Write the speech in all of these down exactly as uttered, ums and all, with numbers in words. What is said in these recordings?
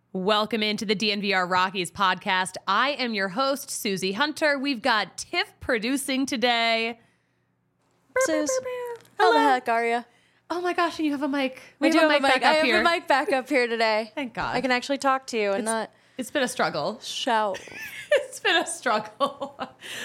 Welcome into the D N V R Rockies podcast. I am your host, Susie Hunter. We've got Tiff producing today. Suze, how the heck are you? Oh my gosh, and you have a mic. We, We do have have a mic a mic. back I up have here. a mic back up here today. Thank God. I can actually talk to you and not It's been a struggle. shout. It's been a struggle.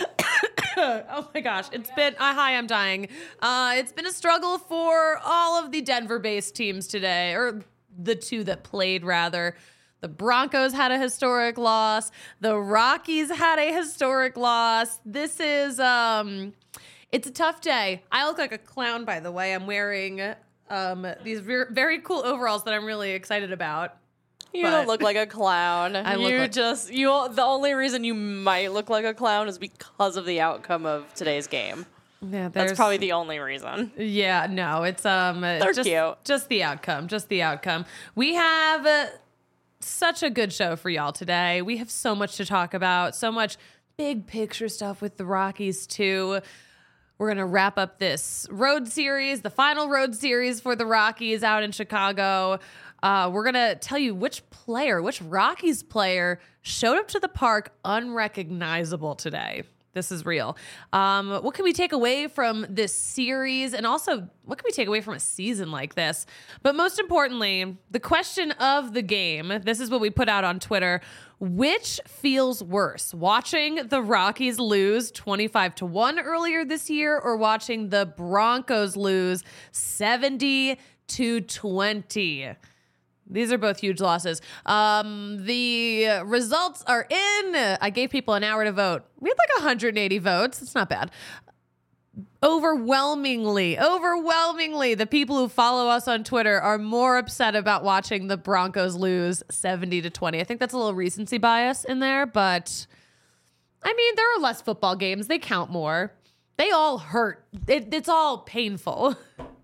Oh my gosh. It's been, uh, hi, I'm dying. Uh, it's been a struggle for all of the Denver-based teams today, or the two that played, rather. The Broncos had a historic loss. The Rockies had a historic loss. This is, um, it's a tough day. I look like a clown, by the way. I'm wearing um, these ver- very cool overalls that I'm really excited about. You But- don't look like a clown. I look you like- just you. The only reason you might look like a clown is because of the outcome of today's game. Yeah, That's there's- probably the only reason. Yeah, no, it's um They're just, cute. just the outcome, just the outcome. We have uh, such a good show for y'all today. We have so much to talk about, so much big picture stuff with the Rockies too. We're going to wrap up this road series, the final road series for the Rockies out in Chicago. Uh, we're going to tell you which player, which Rockies player showed up to the park unrecognizable today. This is real. Um, what can we take away from this series? And also, what can we take away from a season like this? But most importantly, the question of the game, this is what we put out on Twitter. Which feels worse, watching the Rockies lose twenty-five to one earlier this year or watching the Broncos lose seventy to twenty? These are both huge losses. Um, the results are in. I gave people an hour to vote. We had like one hundred eighty votes. It's not bad. Overwhelmingly, overwhelmingly, the people who follow us on Twitter are more upset about watching the Broncos lose seventy to twenty. I think that's a little recency bias in there, but I mean, there are less football games. They count more. They all hurt. It, it's all painful.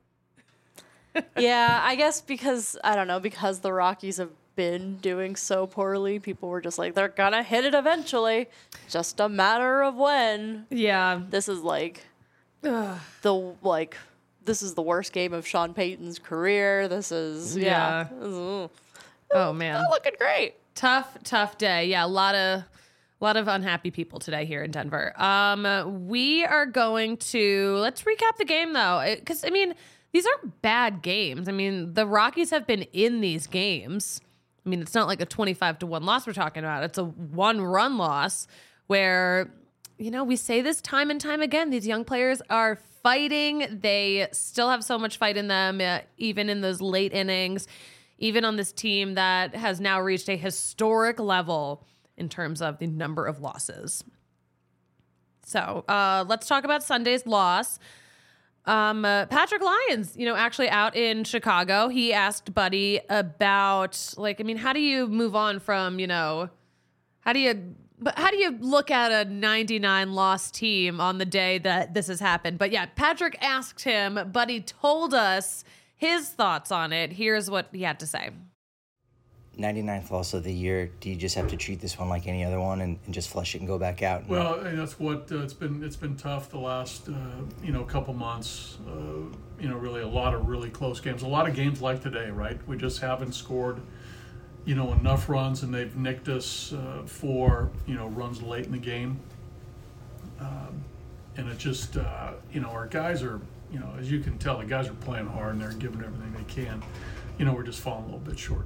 Yeah, I guess because I don't know because the Rockies have been doing so poorly, people were just like they're gonna hit it eventually. Just a matter of when. Yeah. This is like the like this is the worst game of Sean Payton's career. This is yeah. Yeah. This is- Oh, man. not looking great. Tough, tough day. Yeah, a lot of a lot of unhappy people today here in Denver. Um, we are going to let's recap the game though, because I mean these aren't bad games. I mean the Rockies have been in these games. I mean it's not like a twenty-five to one loss we're talking about. It's a one run loss where you know we say this time and time again. These young players are fighting. They still have so much fight in them, uh, even in those late innings. Even on this team that has now reached a historic level in terms of the number of losses. So uh, let's talk about Sunday's loss. Um, uh, Patrick Lyons, you know, actually out in Chicago, he asked Buddy about, like, I mean, how do you move on from, you know, how do you, but how do you look at a ninety-nine loss team on the day that this has happened? But yeah, Patrick asked him, Buddy told us his thoughts on it. Here's what he had to say. ninety-ninth loss of the year. Do you just have to treat this one like any other one and, and just flush it and go back out? Well, and that's what uh, it's been. It's been tough the last uh, you know couple months. Uh, you know, really a lot of really close games. A lot of games like today, right? We just haven't scored you know enough runs, and they've nicked us uh, for you know runs late in the game. Um, and it just uh, you know our guys are you know as you can tell the guys are playing hard and they're giving everything they can. You know, we're just falling a little bit short.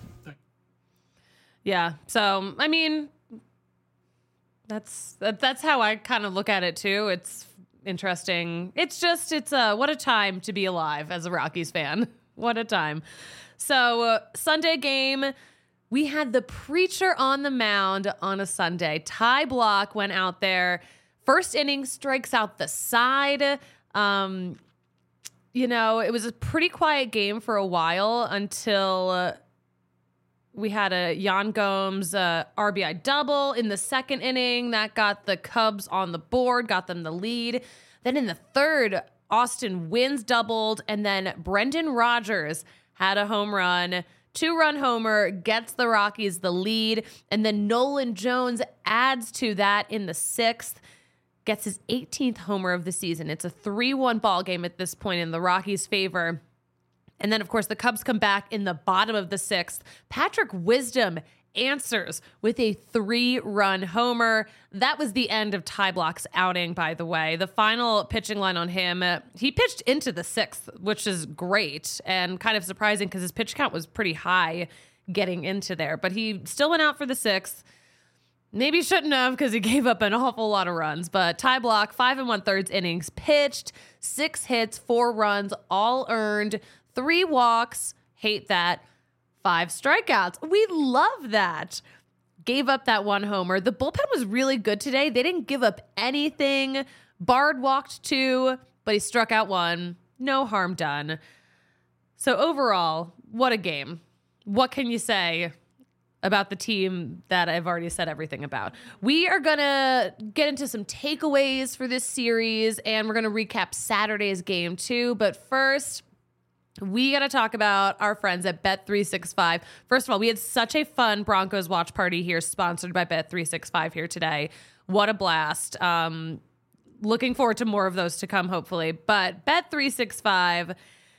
Yeah. So, I mean, that's that, that's how I kind of look at it too. It's interesting. It's just it's uh what a time to be alive as a Rockies fan. What a time. So, uh, Sunday game, we had the preacher on the mound on a Sunday. Ty Block went out there. First inning, strikes out the side. Um you know, it was a pretty quiet game for a while until uh, we had a Yan Gomes uh, R B I double in the second inning. That got the Cubs on the board, got them the lead. Then in the third, Austin Wynns doubled, and then Brendan Rodgers had a home run. Two-run homer gets the Rockies the lead, and then Nolan Jones adds to that in the sixth, gets his eighteenth homer of the season. It's a three one ball game at this point in the Rockies' favor. And then, of course, the Cubs come back in the bottom of the sixth. Patrick Wisdom answers with a three-run homer. That was the end of Ty Block's outing, by the way. The final pitching line on him, uh, he pitched into the sixth, which is great and kind of surprising because his pitch count was pretty high getting into there. But he still went out for the sixth. Maybe shouldn't have because he gave up an awful lot of runs. But Ty Block, five and one-thirds innings pitched, six hits, four runs, all earned, three walks. Hate that. Five strikeouts. We love that. Gave up that one homer. The bullpen was really good today. They didn't give up anything. Bard walked two, but he struck out one. No harm done. So overall, what a game. What can you say about the team that I've already said everything about? We are going to get into some takeaways for this series, and we're going to recap Saturday's game too. But first, we got to talk about our friends at Bet three sixty-five. First of all, we had such a fun Broncos watch party here, sponsored by Bet three sixty-five here today. What a blast. Um, looking forward to more of those to come, hopefully. But Bet three sixty-five,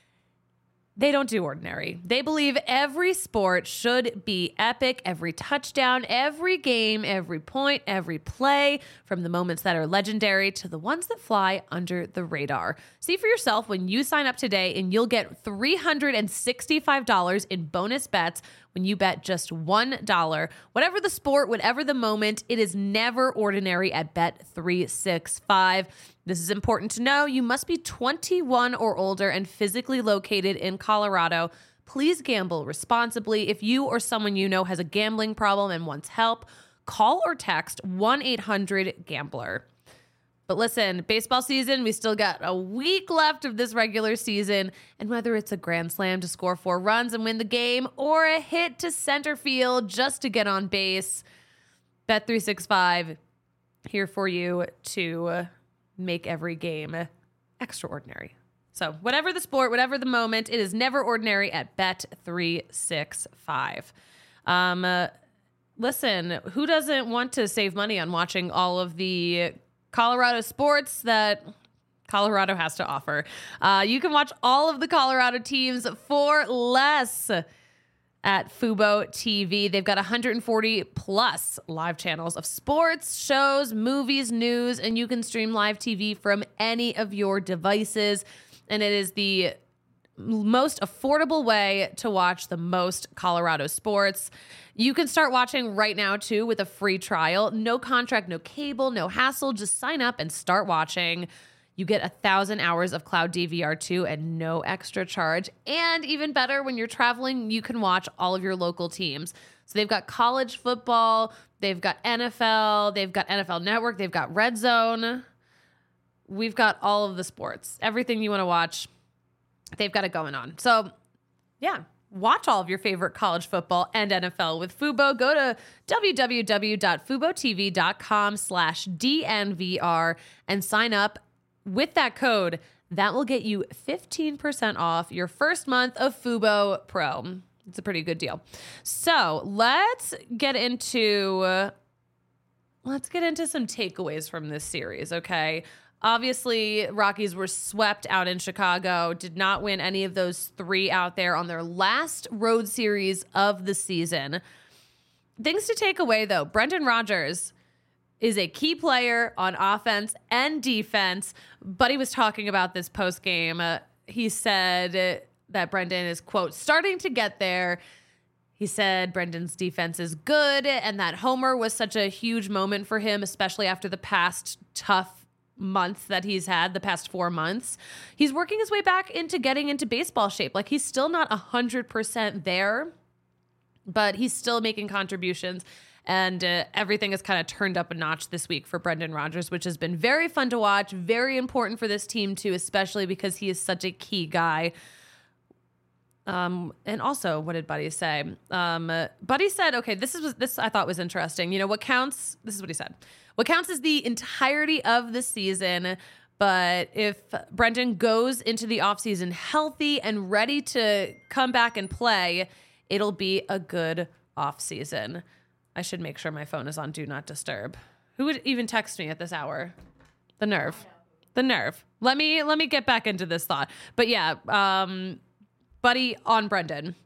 they don't do ordinary. They believe every sport should be epic. Every touchdown, every game, every point, every play, from the moments that are legendary to the ones that fly under the radar. See for yourself when you sign up today, and you'll get three hundred sixty-five dollars in bonus bets when you bet just one dollar. Whatever the sport, whatever the moment, it is never ordinary at Bet three sixty-five. This is important to know. You must be twenty-one or older and physically located in Colorado. Please gamble responsibly. If you or someone you know has a gambling problem and wants help, call or text one eight hundred gambler. But listen, baseball season, we still got a week left of this regular season. And whether it's a grand slam to score four runs and win the game, or a hit to center field just to get on base, Bet three sixty-five here for you to make every game extraordinary. So whatever the sport, whatever the moment, it is never ordinary at Bet three sixty-five. Um, uh, listen, who doesn't want to save money on watching all of the Colorado sports that Colorado has to offer? Uh, you can watch all of the Colorado teams for less at Fubo T V. They've got one hundred forty plus live channels of sports, shows, movies, news, and you can stream live T V from any of your devices. And it is the most affordable way to watch the most Colorado sports. You can start watching right now, too, with a free trial. No contract, no cable, no hassle. Just sign up and start watching. You get a thousand hours of cloud D V R too, and no extra charge. And even better, when you're traveling, you can watch all of your local teams. So they've got college football, they've got N F L, they've got N F L Network, they've got Red Zone. We've got all of the sports, everything you want to watch. They've got it going on. So yeah, watch all of your favorite college football and N F L with Fubo. Go to www.fubotv.com slash DNVR and sign up with that code. That will get you fifteen percent off your first month of Fubo Pro. It's a pretty good deal. So let's get into, let's get into some takeaways from this series, okay? Obviously, Rockies were swept out in Chicago, did not win any of those three out there on their last road series of the season. Things to take away, though. Brendan Rodgers is a key player on offense and defense, but he was talking about this post-game. Uh, he said that Brendan is, quote, starting to get there. He said Brendan's defense is good, and that homer was such a huge moment for him, especially after the past tough month that he's had, the past four months. He's working his way back into getting into baseball shape. Like, he's still not one hundred percent there, but he's still making contributions. And uh, everything has kind of turned up a notch this week for Brendan Rodgers, which has been very fun to watch, very important for this team too, especially because he is such a key guy. Um, and also, what did Buddy say? Um, uh, Buddy said, okay, this is this I thought was interesting. You know, what counts, this is what he said. What counts is the entirety of the season, but if Brendan goes into the offseason healthy and ready to come back and play, it'll be a good offseason. I should make sure my phone is on Do Not Disturb. Who would even text me at this hour? The nerve. The nerve. Let me let me get back into this thought. But yeah, um, buddy on Brendan.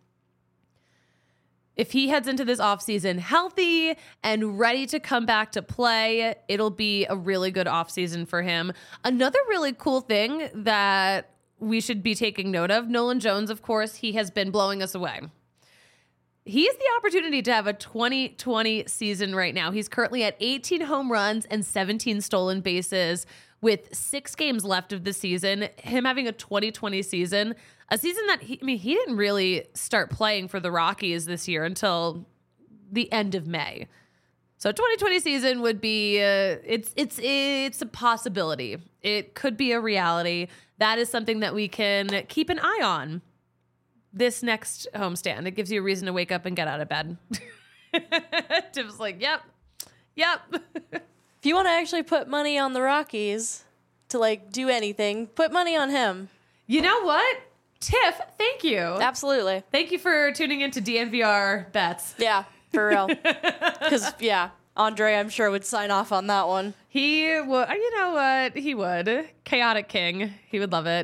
If he heads into this offseason healthy and ready to come back to play, it'll be a really good offseason for him. Another really cool thing that we should be taking note of, Nolan Jones, of course, he has been blowing us away. He has the opportunity to have a twenty twenty season right now. He's currently at eighteen home runs and seventeen stolen bases with six games left of the season. Him having a twenty twenty season, a season that he, I mean, he didn't really start playing for the Rockies this year until the end of May. So twenty twenty season would be, uh, it's, it's, it's a possibility. It could be a reality. That is something that we can keep an eye on this next homestand. It gives you a reason to wake up and get out of bed. Tim's like, yep, yep. If you want to actually put money on the Rockies to like do anything, put money on him. You know what? Tiff, thank you. Absolutely. Thank you for tuning into D N V R bets. Yeah, for real. Because, yeah, Andre, I'm sure, would sign off on that one. He would, you know what? He would. Chaotic King. He would love it.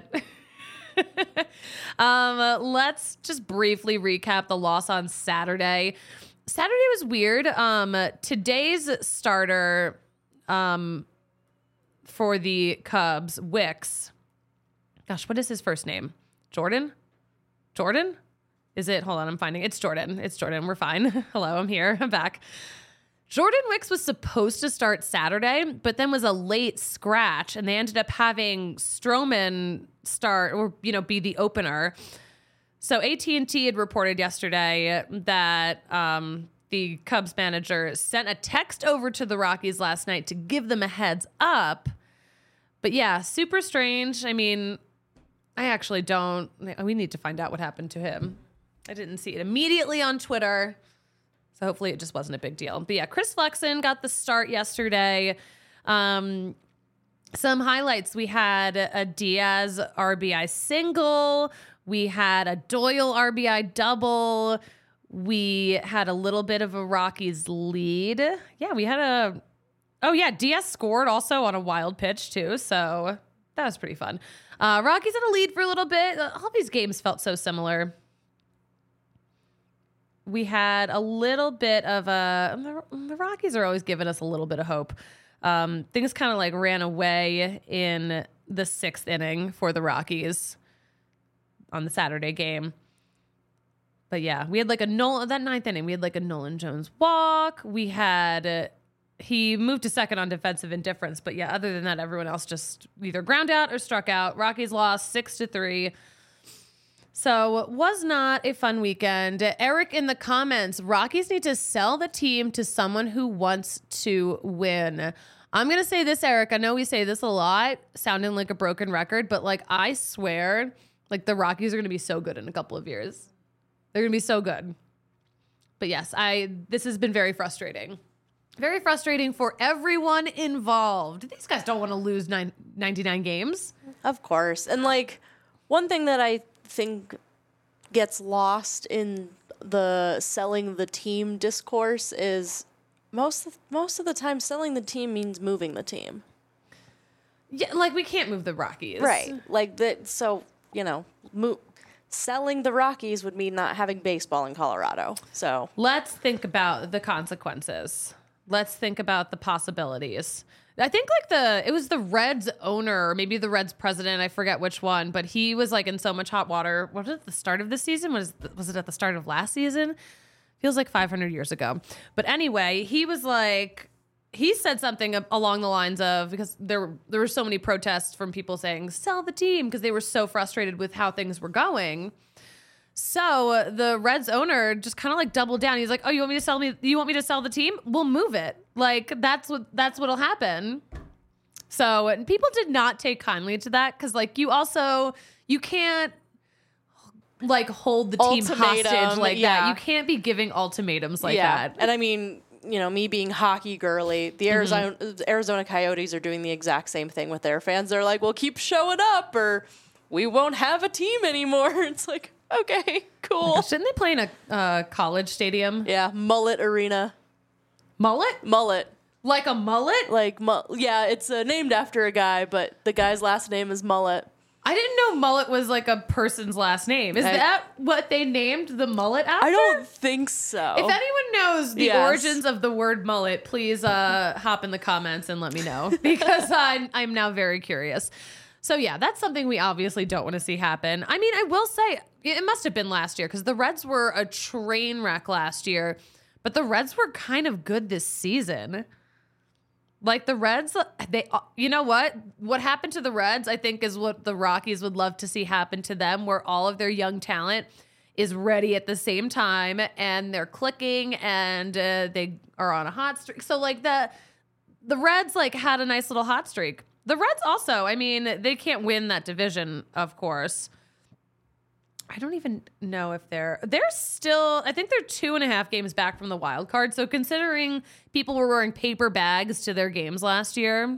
um, let's just briefly recap the loss on Saturday. Saturday was weird. Um, today's starter um, for the Cubs, Wicks. Gosh, what is his first name? Jordan? Jordan? Is it? Hold on, I'm finding. It's Jordan. It's Jordan. We're fine. Hello, I'm here. I'm back. Jordan Wicks was supposed to start Saturday, but then was a late scratch, and they ended up having Stroman start or, you know, be the opener. So A T and T had reported yesterday that um, the Cubs manager sent a text over to the Rockies last night to give them a heads up. But yeah, super strange. I mean, I actually don't. We need to find out what happened to him. I didn't see it immediately on Twitter. So hopefully it just wasn't a big deal. But yeah, Chris Flexen got the start yesterday. Um, some highlights. We had a Diaz R B I single. We had a Doyle R B I double. We had a little bit of a Rockies lead. Yeah, we had a... Oh, yeah, Diaz scored also on a wild pitch, too. So that was pretty fun. Uh, Rockies had a lead for a little bit. All these games felt so similar. We had a little bit of a... The, the Rockies are always giving us a little bit of hope. Um, things kind of like ran away in the sixth inning for the Rockies on the Saturday game. But yeah, we had like a Nolan... That ninth inning, we had like a Nolan Jones walk. We had... Uh, he moved to second on defensive indifference. But yeah, other than that, everyone else just either ground out or struck out. Rockies lost six to three. So it was not a fun weekend. Eric in the comments, Rockies need to sell the team to someone who wants to win. I'm going to say this, Eric. I know we say this a lot, sounding like a broken record, but like I swear, like the Rockies are going to be so good in a couple of years. They're going to be so good. But yes, I this has been very frustrating. Very frustrating for everyone involved. These guys don't want to lose nine, ninety-nine games. Of course. And like one thing that I think gets lost in the selling the team discourse is most of, most of the time selling the team means moving the team. Yeah, like we can't move the Rockies. Right. Like that. So, you know, mo- selling the Rockies would mean not having baseball in Colorado. So let's think about the consequences. Let's think about the possibilities. I think like the, it was the Reds owner, or maybe the Reds president, I forget which one, but he was like in so much hot water. What was it, the start of the season? Was, was it at the start of last season? Feels like five hundred years ago. But anyway, he was like, he said something along the lines of, because there, there were so many protests from people saying, sell the team, because they were so frustrated with how things were going. So the Reds owner just kind of like doubled down. He's like, "Oh, you want me to sell me? You want me to sell the team? We'll move it. Like that's what that's what'll happen." So and people did not take kindly to that because like you also you can't like hold the team Ultimatum, hostage like yeah. that. You can't be giving ultimatums like yeah. that. And I mean, you know, me being hockey girly, the Arizona mm-hmm. Arizona Coyotes are doing the exact same thing with their fans. They're like, "Well, keep showing up, or we won't have a team anymore." It's like. Okay, cool. Shouldn't they play in a uh, college stadium? Yeah, Mullet Arena. Mullet? Mullet. Like a mullet? Like, mu- yeah, it's uh, named after a guy, but the guy's last name is Mullet. I didn't know mullet was like a person's last name. Is I- that what they named the mullet after? I don't think so. If anyone knows the Yes. origins of the word mullet, please uh, hop in the comments and let me know because I, I'm now very curious. So yeah, that's something we obviously don't want to see happen. I mean, I will say it must have been last year because the Reds were a train wreck last year, but the Reds were kind of good this season. Like the Reds, they, you know what? What happened to the Reds, I think, is what the Rockies would love to see happen to them, where all of their young talent is ready at the same time and they're clicking and uh, they are on a hot streak. So like the the Reds like had a nice little hot streak. The Reds also, I mean, they can't win that division, of course. I don't even know if they're they're still I think they're two and a half games back from the wild card. So considering people were wearing paper bags to their games last year,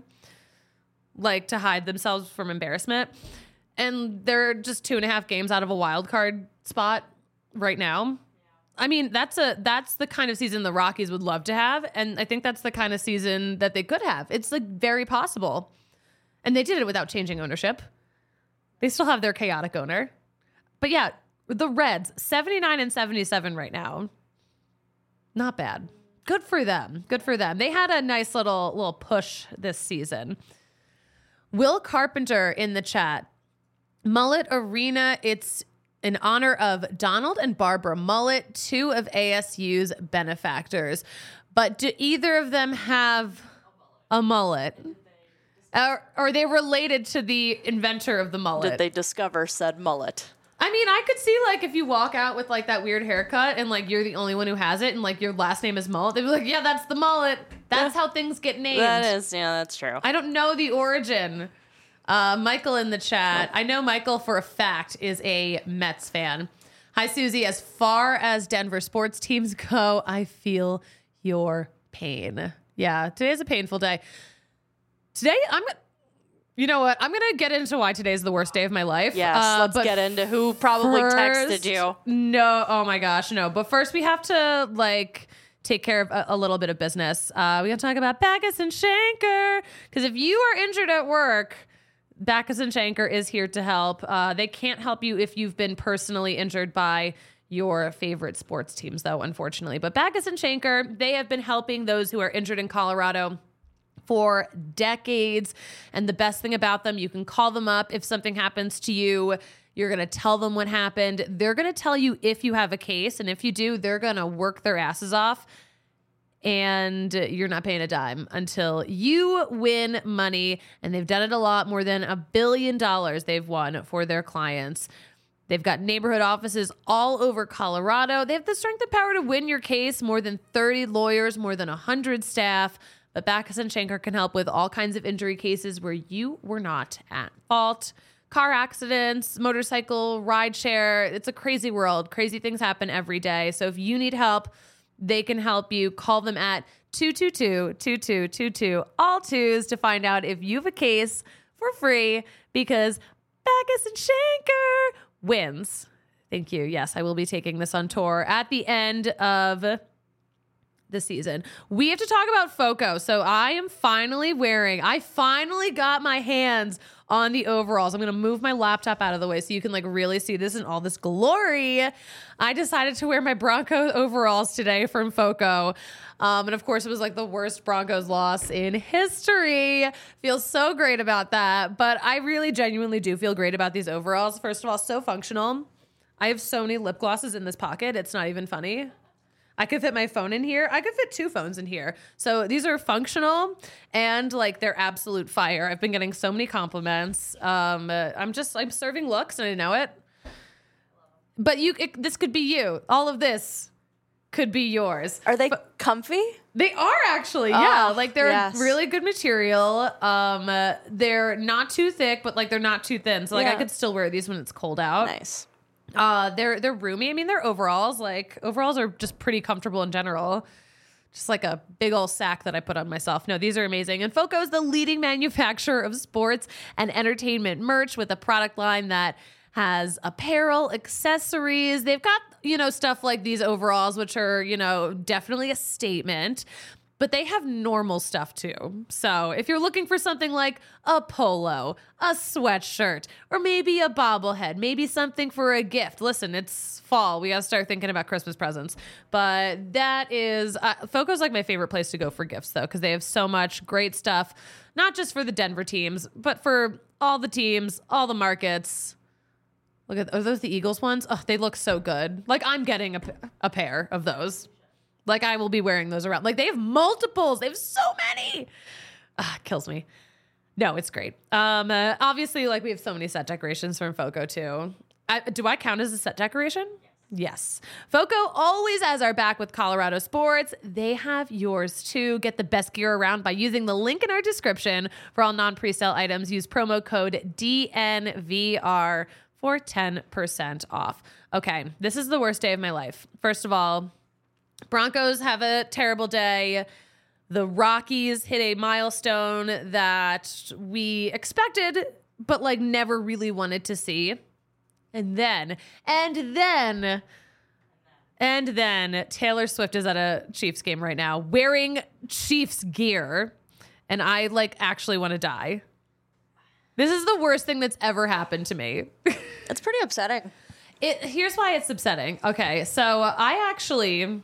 like to hide themselves from embarrassment, and they're just two and a half games out of a wild card spot right now. I mean, that's a that's the kind of season the Rockies would love to have, and I think that's the kind of season that they could have. It's like very possible. And they did it without changing ownership. They still have their chaotic owner. But yeah, the Reds, seventy-nine and seventy-seven right now. Not bad. Good for them. Good for them. They had a nice little little push this season. Will Carpenter in the chat. Mullet Arena, it's in honor of Donald and Barbara Mullet, two of A S U's benefactors. But do either of them have a mullet? Or are they related to the inventor of the mullet? Did they discover said mullet? I mean, I could see, like, if you walk out with, like, that weird haircut and, like, you're the only one who has it and, like, your last name is Mullet, they'd be like, yeah, that's the mullet. That's how things get named. That is, yeah, that's true. I don't know the origin. Uh, Michael in the chat. I know Michael for a fact is a Mets fan. Hi, Susie. As far as Denver sports teams go, I feel your pain. Yeah, today's a painful day. Today, I'm... You know what? I'm going to get into why today's the worst day of my life. Yes, uh, let's but get into who probably texted first- you. No, oh my gosh, no. But first we have to like take care of a, a little bit of business. Uh, we got to talk about Backus and Schenker. Because if you are injured at work, Backus and Schenker is here to help. Uh, they can't help you if you've been personally injured by your favorite sports teams, though, unfortunately. But Backus and Schenker, they have been helping those who are injured in Colorado for decades. And the best thing about them, you can call them up if something happens to you. You're going to tell them what happened. They're going to tell you if you have a case. And if you do, they're going to work their asses off. And you're not paying a dime until you win money. And they've done it a lot, more than a billion dollars they've won for their clients. They've got neighborhood offices all over Colorado. They have the strength and power to win your case, more than thirty lawyers, more than one hundred staff. But Backus and Schenker can help with all kinds of injury cases where you were not at fault. Car accidents, motorcycle, ride share. It's a crazy world. Crazy things happen every day. So if you need help, they can help you. Call them at two two two, two two two two, all twos to find out if you have a case for free because Backus and Schenker wins. Thank you. Yes, I will be taking this on tour at the end of the season. We have to talk about Foco. So I am finally wearing, I finally got my hands on the overalls. I'm going to move my laptop out of the way so you can like really see this in all this glory. I decided to wear my Broncos overalls today from Foco. Um, and of course it was like the worst Broncos loss in history. Feel so great about that. But I really genuinely do feel great about these overalls. First of all, so functional. I have so many lip glosses in this pocket. It's not even funny. I could fit my phone in here. I could fit two phones in here. So these are functional and like they're absolute fire. I've been getting so many compliments. Um, uh, I'm just, I'm serving looks and I know it. But you, it, this could be you. All of this could be yours. Are they But comfy? they are actually, yeah. Oh, Like they're yes. really good material. Um, uh, they're not too thick, but like they're not too thin. So like I Yeah. could still wear these when it's cold out. Nice. Uh, they're they're roomy. I mean, they're overalls. Like overalls are just pretty comfortable in general. Just like a big old sack that I put on myself. No, these are amazing. And Foco is the leading manufacturer of sports and entertainment merch with a product line that has apparel, accessories. They've got, you know, stuff like these overalls, which are, you know, definitely a statement. but they have normal stuff too. So if you're looking for something like a polo, a sweatshirt, or maybe a bobblehead, maybe something for a gift. Listen, it's fall. We got to start thinking about Christmas presents. But that is, uh, Foco's like my favorite place to go for gifts though, because they have so much great stuff, not just for the Denver teams, but for all the teams, all the markets. Look at, are those the Eagles ones? Oh, they look so good. Like I'm getting a, a pair of those. Like I will be wearing those around. Like they have multiples. They have so many. Ah, kills me. No, it's great. Um, uh, obviously, like we have so many set decorations from Foco too. I, do I count as a set decoration? Yes. Foco always has our back with Colorado sports. They have yours too. Get the best gear around by using the link in our description for all non-presale items. Use promo code D N V R for ten percent off. Okay, this is the worst day of my life. First of all, Broncos have a terrible day. The Rockies hit a milestone that we expected, but like never really wanted to see. And then, and then, and then Taylor Swift is at a Chiefs game right now wearing Chiefs gear. And I like actually want to die. This is the worst thing that's ever happened to me. It's pretty upsetting. It, here's why it's upsetting. Okay, so I actually...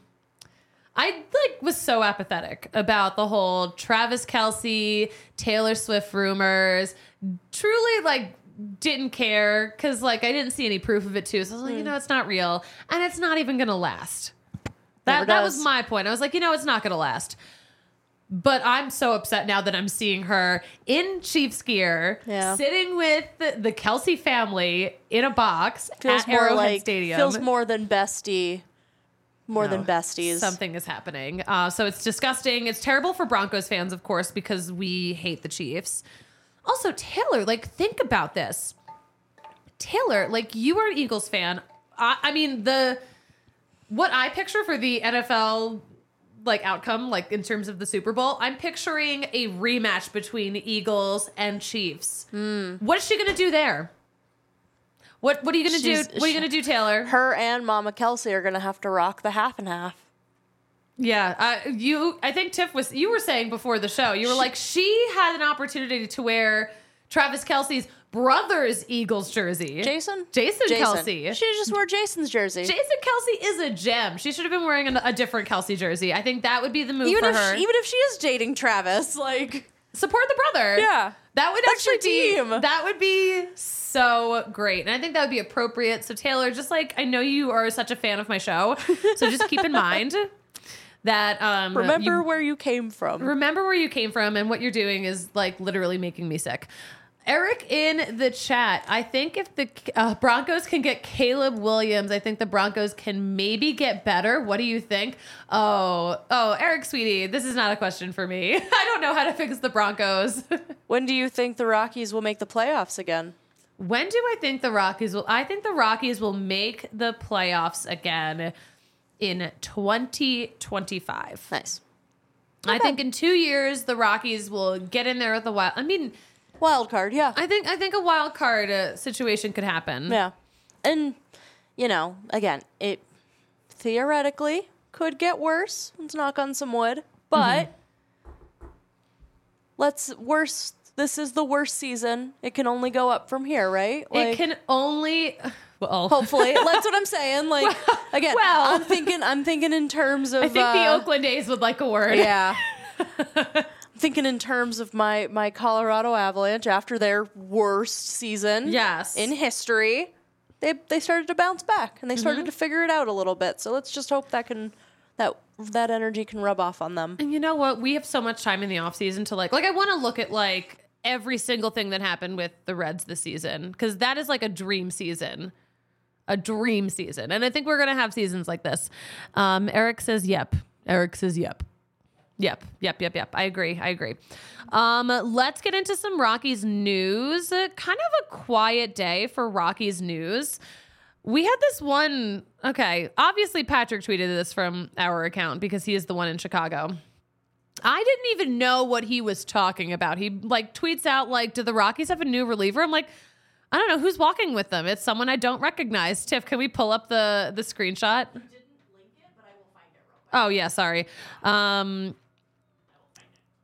I like was so apathetic about the whole Travis Kelce, Taylor Swift rumors. Truly, like, didn't care because, like, I didn't see any proof of it too. So I was like, mm. you know, it's not real, and it's not even gonna last. That that was my point. I was like, you know, it's not gonna last. But I'm so upset now that I'm seeing her in Chiefs gear, yeah. sitting with the, the Kelce family in a box feels at more Arrowhead like, Stadium. Feels more than bestie. More No, than besties. Something is happening. Uh, so it's disgusting. It's terrible for Broncos fans, of course, because we hate the Chiefs. Also, Taylor, like, think about this. Taylor, like, you are an Eagles fan. I, I mean, the what I picture for the N F L, like, outcome, like, in terms of the Super Bowl, I'm picturing a rematch between Eagles and Chiefs. Mm. What is she going to do there? What What are you gonna She's, do? What are you gonna do, Taylor? Her and Mama Kelce are gonna have to rock the half and half. Yeah, uh, you. I think Tiff was. You were saying before the show. You were like, she had an opportunity to wear Travis Kelce's brother's Eagles jersey. Jason. Jason, Jason. Kelce. She should just wear Jason's jersey. Jason Kelce is a gem. She should have been wearing a, a different Kelce jersey. I think that would be the move even for if her. She, even if she is dating Travis, like support the brother. Yeah, that would that's actually your be. team. That would be so great, and I think that would be appropriate. So Taylor, just like I know you are such a fan of my show, so just keep in mind that um, remember you, where you came from. Remember where you came from, and what you're doing is like literally making me sick. Eric in the chat, I think if the uh, Broncos can get Caleb Williams, I think the Broncos can maybe get better. What do you think? Oh, oh, Eric, sweetie, this is not a question for me. I don't know how to fix the Broncos. When do you think the Rockies will make the playoffs again? When do I think the Rockies will? I think the Rockies will make the playoffs again in twenty twenty-five. Nice. I think in two years the Rockies will get in there with the wild. I mean. Wild card, yeah. I think I think a wild card uh, situation could happen. Yeah. And, you know, again, it theoretically could get worse. Let's knock on some wood. But mm-hmm. let's worst. This is the worst season. It can only go up from here, right? Like, it can only. Well, hopefully, that's what I'm saying. Like well, again, well, I'm thinking. I'm thinking in terms of. I think uh, the Oakland A's would like a word. Yeah. Thinking in terms of my my Colorado Avalanche after their worst season yes. in history, they they started to bounce back and they started mm-hmm. to figure it out a little bit. So let's just hope that can that that energy can rub off on them. And you know what? We have so much time in the off season to like like I want to look at like every single thing that happened with the Reds this season because that is like a dream season. A dream season. And I think we're going to have seasons like this. Um, Eric says yep. Eric says yep. Yep, yep, yep, yep. I agree. I agree. Um, let's get into some Rockies news. Uh, kind of a quiet day for Rockies news. We had this one. Okay, obviously Patrick tweeted this from our account because he is the one in Chicago. I didn't even know what he was talking about. He like tweets out like, "Do the Rockies have a new reliever?" I'm like, I don't know who's walking with them. It's someone I don't recognize. Tiff, can we pull up the the screenshot? You didn't link it, but I will find it real quick. Oh yeah, sorry. Um.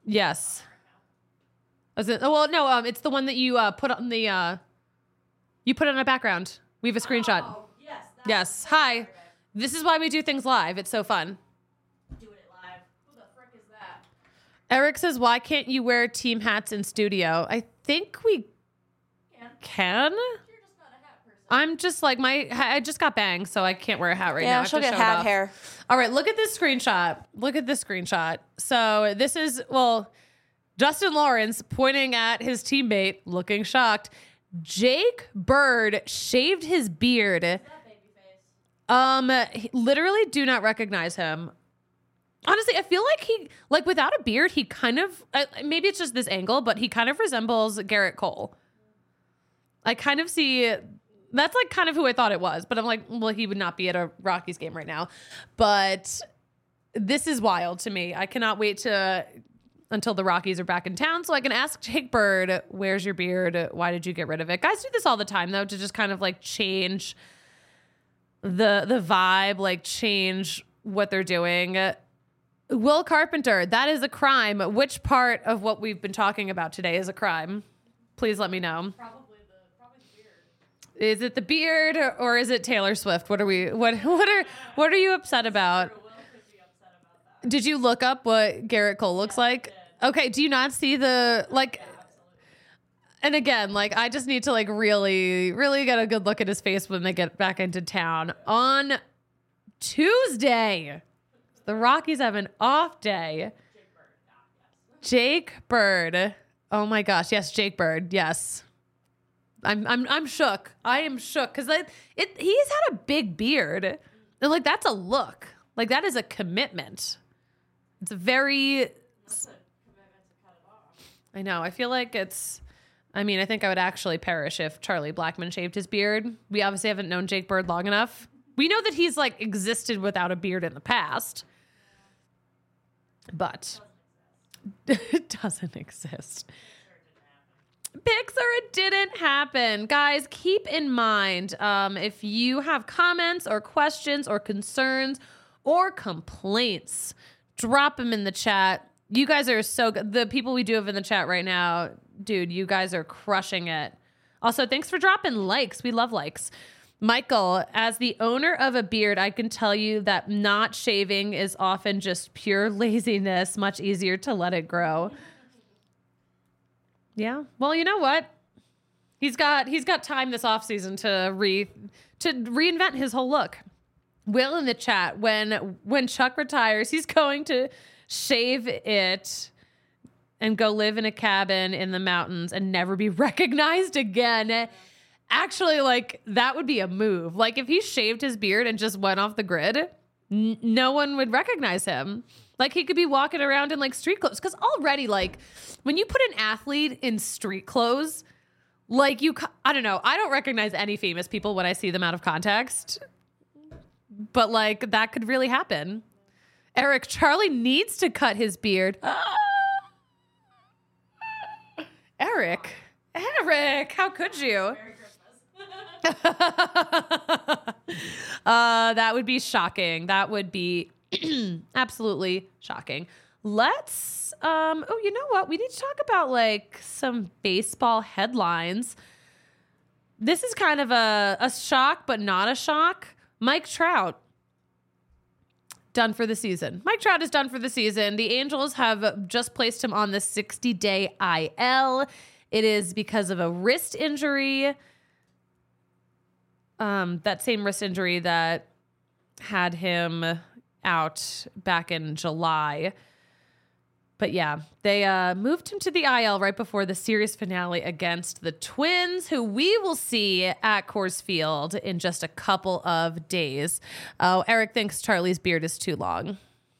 Yes. Was it, oh, well, no, um, it's the one that you uh, put on the, uh, you put on a background. We have a screenshot. Oh, yes. Yes. Hi. This is why we do things live. It's so fun. Doing it live. Who the frick is that? Eric says, why can't you wear team hats in studio? I think we Can. can. You're just not a hat person. I'm just like, my, I just got bangs, so I can't wear a hat right now. I Yeah, have she'll to get show it hat off. hair. All right, look at this screenshot. Look at this screenshot. So this is, well, Justin Lawrence pointing at his teammate, looking shocked. Jake Bird shaved his beard. Um, he- literally do not recognize him. Honestly, I feel like he, like without a beard, he kind of, uh, maybe it's just this angle, but he kind of resembles Garrett Cole. I kind of see, that's like kind of who I thought it was, but I'm like, well, he would not be at a Rockies game right now. But this is wild to me. I cannot wait to, until the Rockies are back in town so I can ask Jake Bird, where's your beard? Why did you get rid of it? Guys do this all the time though, to just kind of like change the the vibe, like change what they're doing. Will Carpenter, that is a crime. Which part of what we've been talking about today is a crime? Please let me know. Probably the probably the beard. Is it the beard or, or is it Taylor Swift? What are we what what are what are you upset about? Will could be upset about that. Did you look up what Garrett Cole looks like? Okay, do you not see the like and again, like I just need to like really, really get a good look at his face when they get back into town. On Tuesday, the Rockies have an off day. Jake Bird. Oh my gosh, yes, Jake Bird. Yes. I'm I'm I'm shook. I am shook because like it he's had a big beard. And like that's a look. Like that is a commitment. It's a very I know. I feel like it's I mean, I think I would actually perish if Charlie Blackmon shaved his beard. We obviously haven't known Jake Bird long enough. We know that he's like existed without a beard in the past. But it doesn't exist. Pixar, it didn't happen. Guys, keep in mind, um, if you have comments or questions or concerns or complaints, drop them in the chat. You guys are so good. The people we do have in the chat right now, dude, you guys are crushing it. Also, thanks for dropping likes. We love likes. Michael, as the owner of a beard, I can tell you that not shaving is often just pure laziness. Much easier to let it grow. Yeah. Well, you know what? He's got he's got time this offseason to re to reinvent his whole look. Will in the chat, when when Chuck retires, he's going to shave it and go live in a cabin in the mountains and never be recognized again. Actually, like, that would be a move. Like, if he shaved his beard and just went off the grid, n- no one would recognize him. Like, he could be walking around in, like, street clothes. Because already, like, when you put an athlete in street clothes, like, you, I don't know. I don't recognize any famous people when I see them out of context. But, like, that could really happen. Eric, Charlie needs to cut his beard. Eric, Eric, how could you? uh, that would be shocking. That would be absolutely shocking. Let's, um, oh, you know what? We need to talk about like some baseball headlines. This is kind of a, a shock, but not a shock. Mike Trout, done for the season. Mike Trout is done for the season. The Angels have just placed him on the sixty-day I L. It is because of a wrist injury. Um, that same wrist injury that had him out back in July. But yeah, they uh, moved him to the I L right before the series finale against the Twins, who we will see at Coors Field in just a couple of days. Oh, Eric thinks Charlie's beard is too long.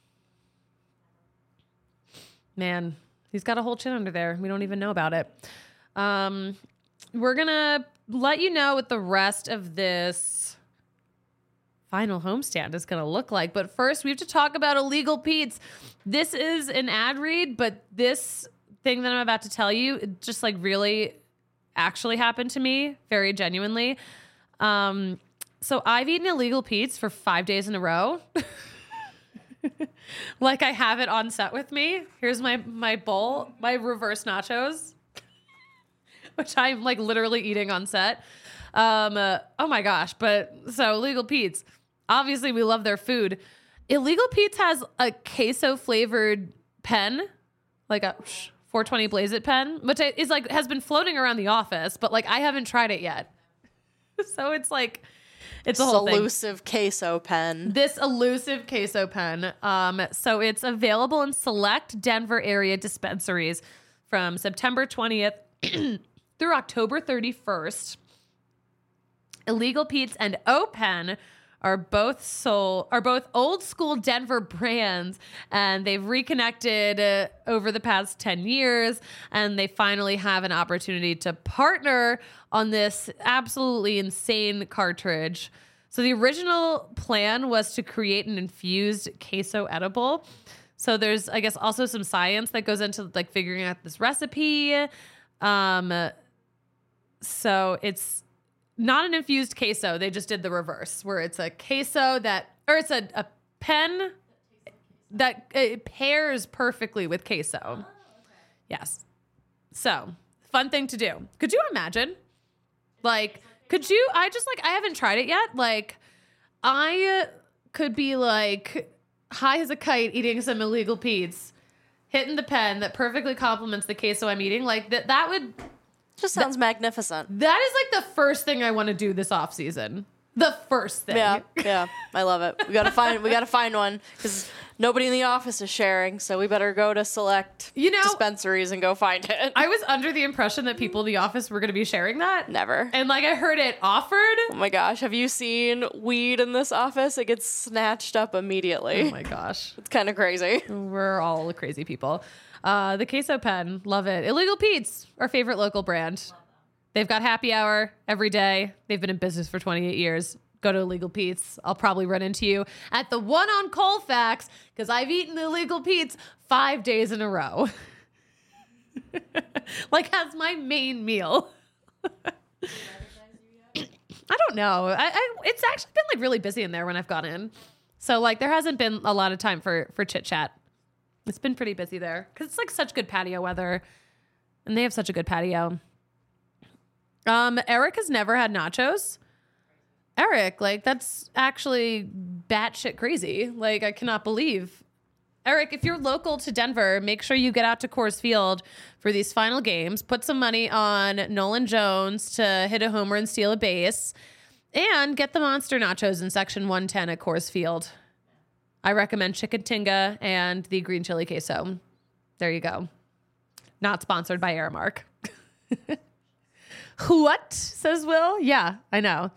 Man, he's got a whole chin under there. We don't even know about it. Um, we're going to let you know what the rest of this final homestand is going to look like. But first, we have to talk about Illegal Pete's. This is an ad read, but this thing that I'm about to tell you, it just like really actually happened to me very genuinely. Um, so I've eaten Illegal Pete's for five days in a row. Like I have it on set with me. Here's my my bowl, my reverse nachos, which I'm like literally eating on set. Um, uh, oh my gosh! But so Illegal Pete's, obviously we love their food. Illegal Pete's has a queso flavored pen, like a four twenty Blaze It pen, which is like has been floating around the office, but like I haven't tried it yet. So it's like it's a whole thing. Elusive queso pen. This elusive queso pen. Um, so it's available in select Denver area dispensaries from September twentieth through October thirty-first. Illegal Pete's and O-Pen are both sold, are both old school Denver brands, and they've reconnected uh, over the past ten years, and they finally have an opportunity to partner on this absolutely insane cartridge. So the original plan was to create an infused queso edible. So there's, I guess, also some science that goes into like figuring out this recipe. Um, so it's not an infused queso. They just did the reverse, where it's a queso that, or it's a, a pen that it pairs perfectly with queso. Oh, okay. Yes. So, fun thing to do. Could you imagine? Like, could you, I just like, I haven't tried it yet. Like, I could be like high as a kite eating some Illegal Pete's, hitting the pen that perfectly complements the queso I'm eating. Like, that, that would... Just sounds that, magnificent. That is like the first thing I want to do this off season. The first thing. Yeah, yeah, I love it. We gotta find, we gotta find one because nobody in the office is sharing, so we better go to select you know, dispensaries and go find it. I was under the impression that people in the office were going to be sharing that. Never. And like I heard it offered. Oh my gosh, have you seen weed in this office? It gets snatched up immediately. Oh my gosh, it's kind of crazy. We're all crazy people. Uh, the queso pen, love it. Illegal Pete's, our favorite local brand. They've got happy hour every day. They've been in business for twenty-eight years. Go to Illegal Pete's. I'll probably run into you at the one on Colfax because I've eaten Illegal Pete's five days in a row. Like as my main meal. I don't know. I, I, it's actually been like really busy in there when I've gone in. So like there hasn't been a lot of time for, for chit chat. It's been pretty busy there because it's like such good patio weather and they have such a good patio. Um, Eric has never had nachos. Eric, like that's actually batshit crazy. Like I cannot believe. Eric, if you're local to Denver, make sure you get out to Coors Field for these final games. Put some money on Nolan Jones to hit a homer and steal a base and get the monster nachos in section one ten at Coors Field. I recommend Chicken Tinga and the green chili queso. There you go. Not sponsored by Aramark. What? Says Will. Yeah, I know.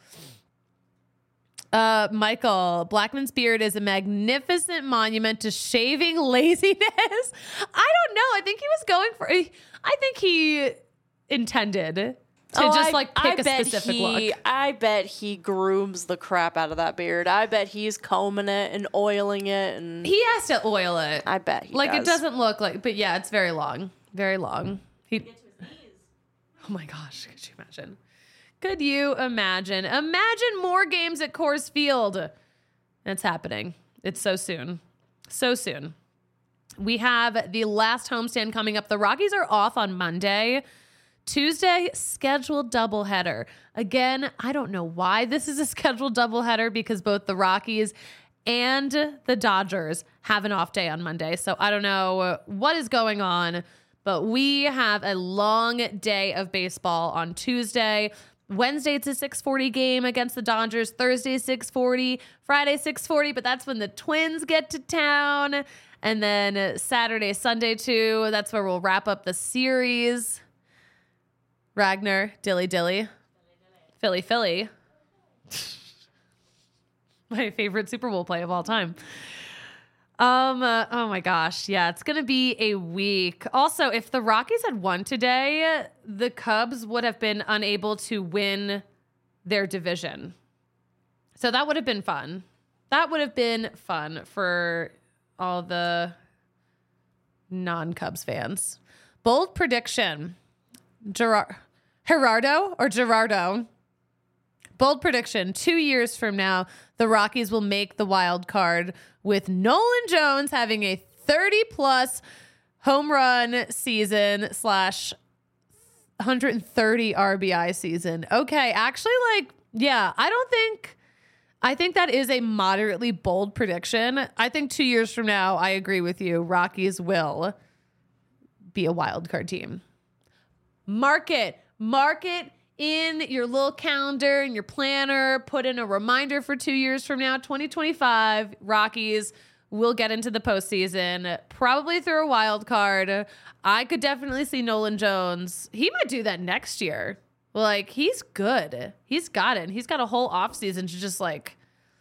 Uh, Michael, Blackman's beard is a magnificent monument to shaving laziness. I don't know. I think he was going for, I think he intended to oh, just I, like pick I a bet specific he, look. I bet he grooms the crap out of that beard. I bet he's combing it and oiling it. And He has to oil it. I bet he Like does. it doesn't look like, but yeah, it's very long. Very long. He, oh my gosh, could you imagine? Could you imagine? Imagine more games at Coors Field. It's happening. It's so soon. So soon. We have the last homestand coming up. The Rockies are off on Monday. Tuesday, scheduled doubleheader. Again, I don't know why this is a scheduled doubleheader because both the Rockies and the Dodgers have an off day on Monday. So I don't know what is going on, but we have a long day of baseball on Tuesday. Wednesday, it's a six forty game against the Dodgers. Thursday, six forty. Friday, six forty, but that's when the Twins get to town. And then Saturday, Sunday, too. That's where we'll wrap up the series. Ragnar, Dilly Dilly. Philly Philly. My favorite Super Bowl play of all time. Um. Uh, oh my gosh. Yeah, it's gonna be a week. Also, if the Rockies had won today, the Cubs would have been unable to win their division. So that would have been fun. That would have been fun for all the non-Cubs fans. Bold prediction: Gerard, Gerardo or Gerardo. bold prediction. Two years from now, the Rockies will make the wild card with Nolan Jones having a thirty plus home run season slash one hundred thirty R B I season. Okay, actually, like, yeah, I don't think, I think that is a moderately bold prediction. I think two years from now, I agree with you. Rockies will be a wild card team. Mark it. Mark it in your little calendar, in your planner. Put in a reminder for two years from now, twenty twenty-five, Rockies will get into the postseason, probably through a wild card. I could definitely see Nolan Jones. He might do that next year. Like, he's good. He's got it. He's got a whole offseason to just, like,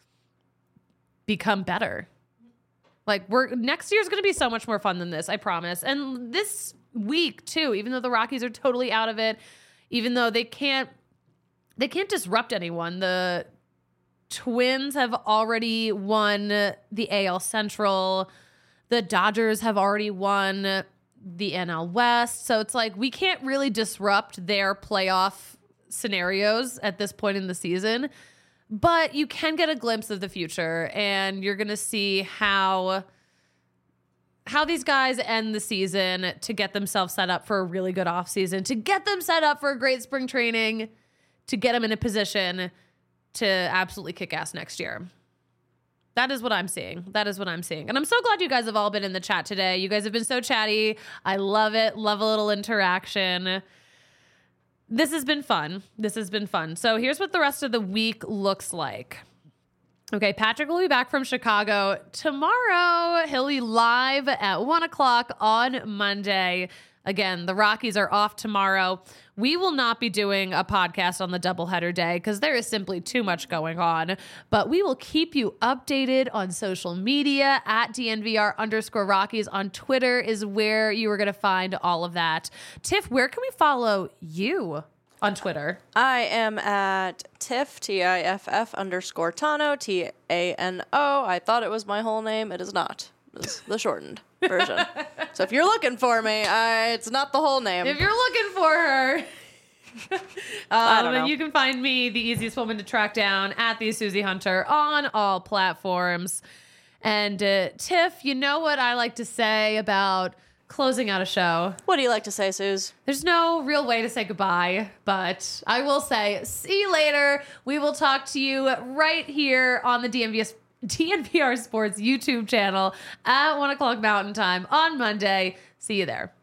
become better. Like, we're next year's going to be so much more fun than this, I promise. And this week, too, even though the Rockies are totally out of it, even though they can't, they can't disrupt anyone. The Twins have already won the A L Central. The Dodgers have already won the N L West. So it's like we can't really disrupt their playoff scenarios at this point in the season. But you can get a glimpse of the future, and you're going to see how how these guys end the season to get themselves set up for a really good offseason, to get them set up for a great spring training, to get them in a position to absolutely kick ass next year. That is what I'm seeing. That is what I'm seeing. And I'm so glad you guys have all been in the chat today. You guys have been so chatty. I love it. Love a little interaction. This has been fun. This has been fun. So here's what the rest of the week looks like. Okay, Patrick will be back from Chicago tomorrow. He'll be live at one o'clock on Monday. Again, the Rockies are off tomorrow. We will not be doing a podcast on the doubleheader day because there is simply too much going on. But we will keep you updated on social media at D N V R underscore Rockies. On Twitter is where you are going to find all of that. Tiff, where can we follow you on Twitter? I am at Tiff, T I F F underscore Tano, T A N O. I thought it was my whole name. It is not. It's the shortened version. So if you're looking for me, I, it's not the whole name. If you're looking for her, um, I don't know. and you can find me, the easiest woman to track down, at the Susie Hunter on all platforms. And uh, Tiff, you know what I like to say about closing out a show? What do you like to say, Suze? There's no real way to say goodbye, but I will say, see you later. We will talk to you right here on the D N V S D N V R Sports YouTube channel at one o'clock Mountain Time on Monday. See you there.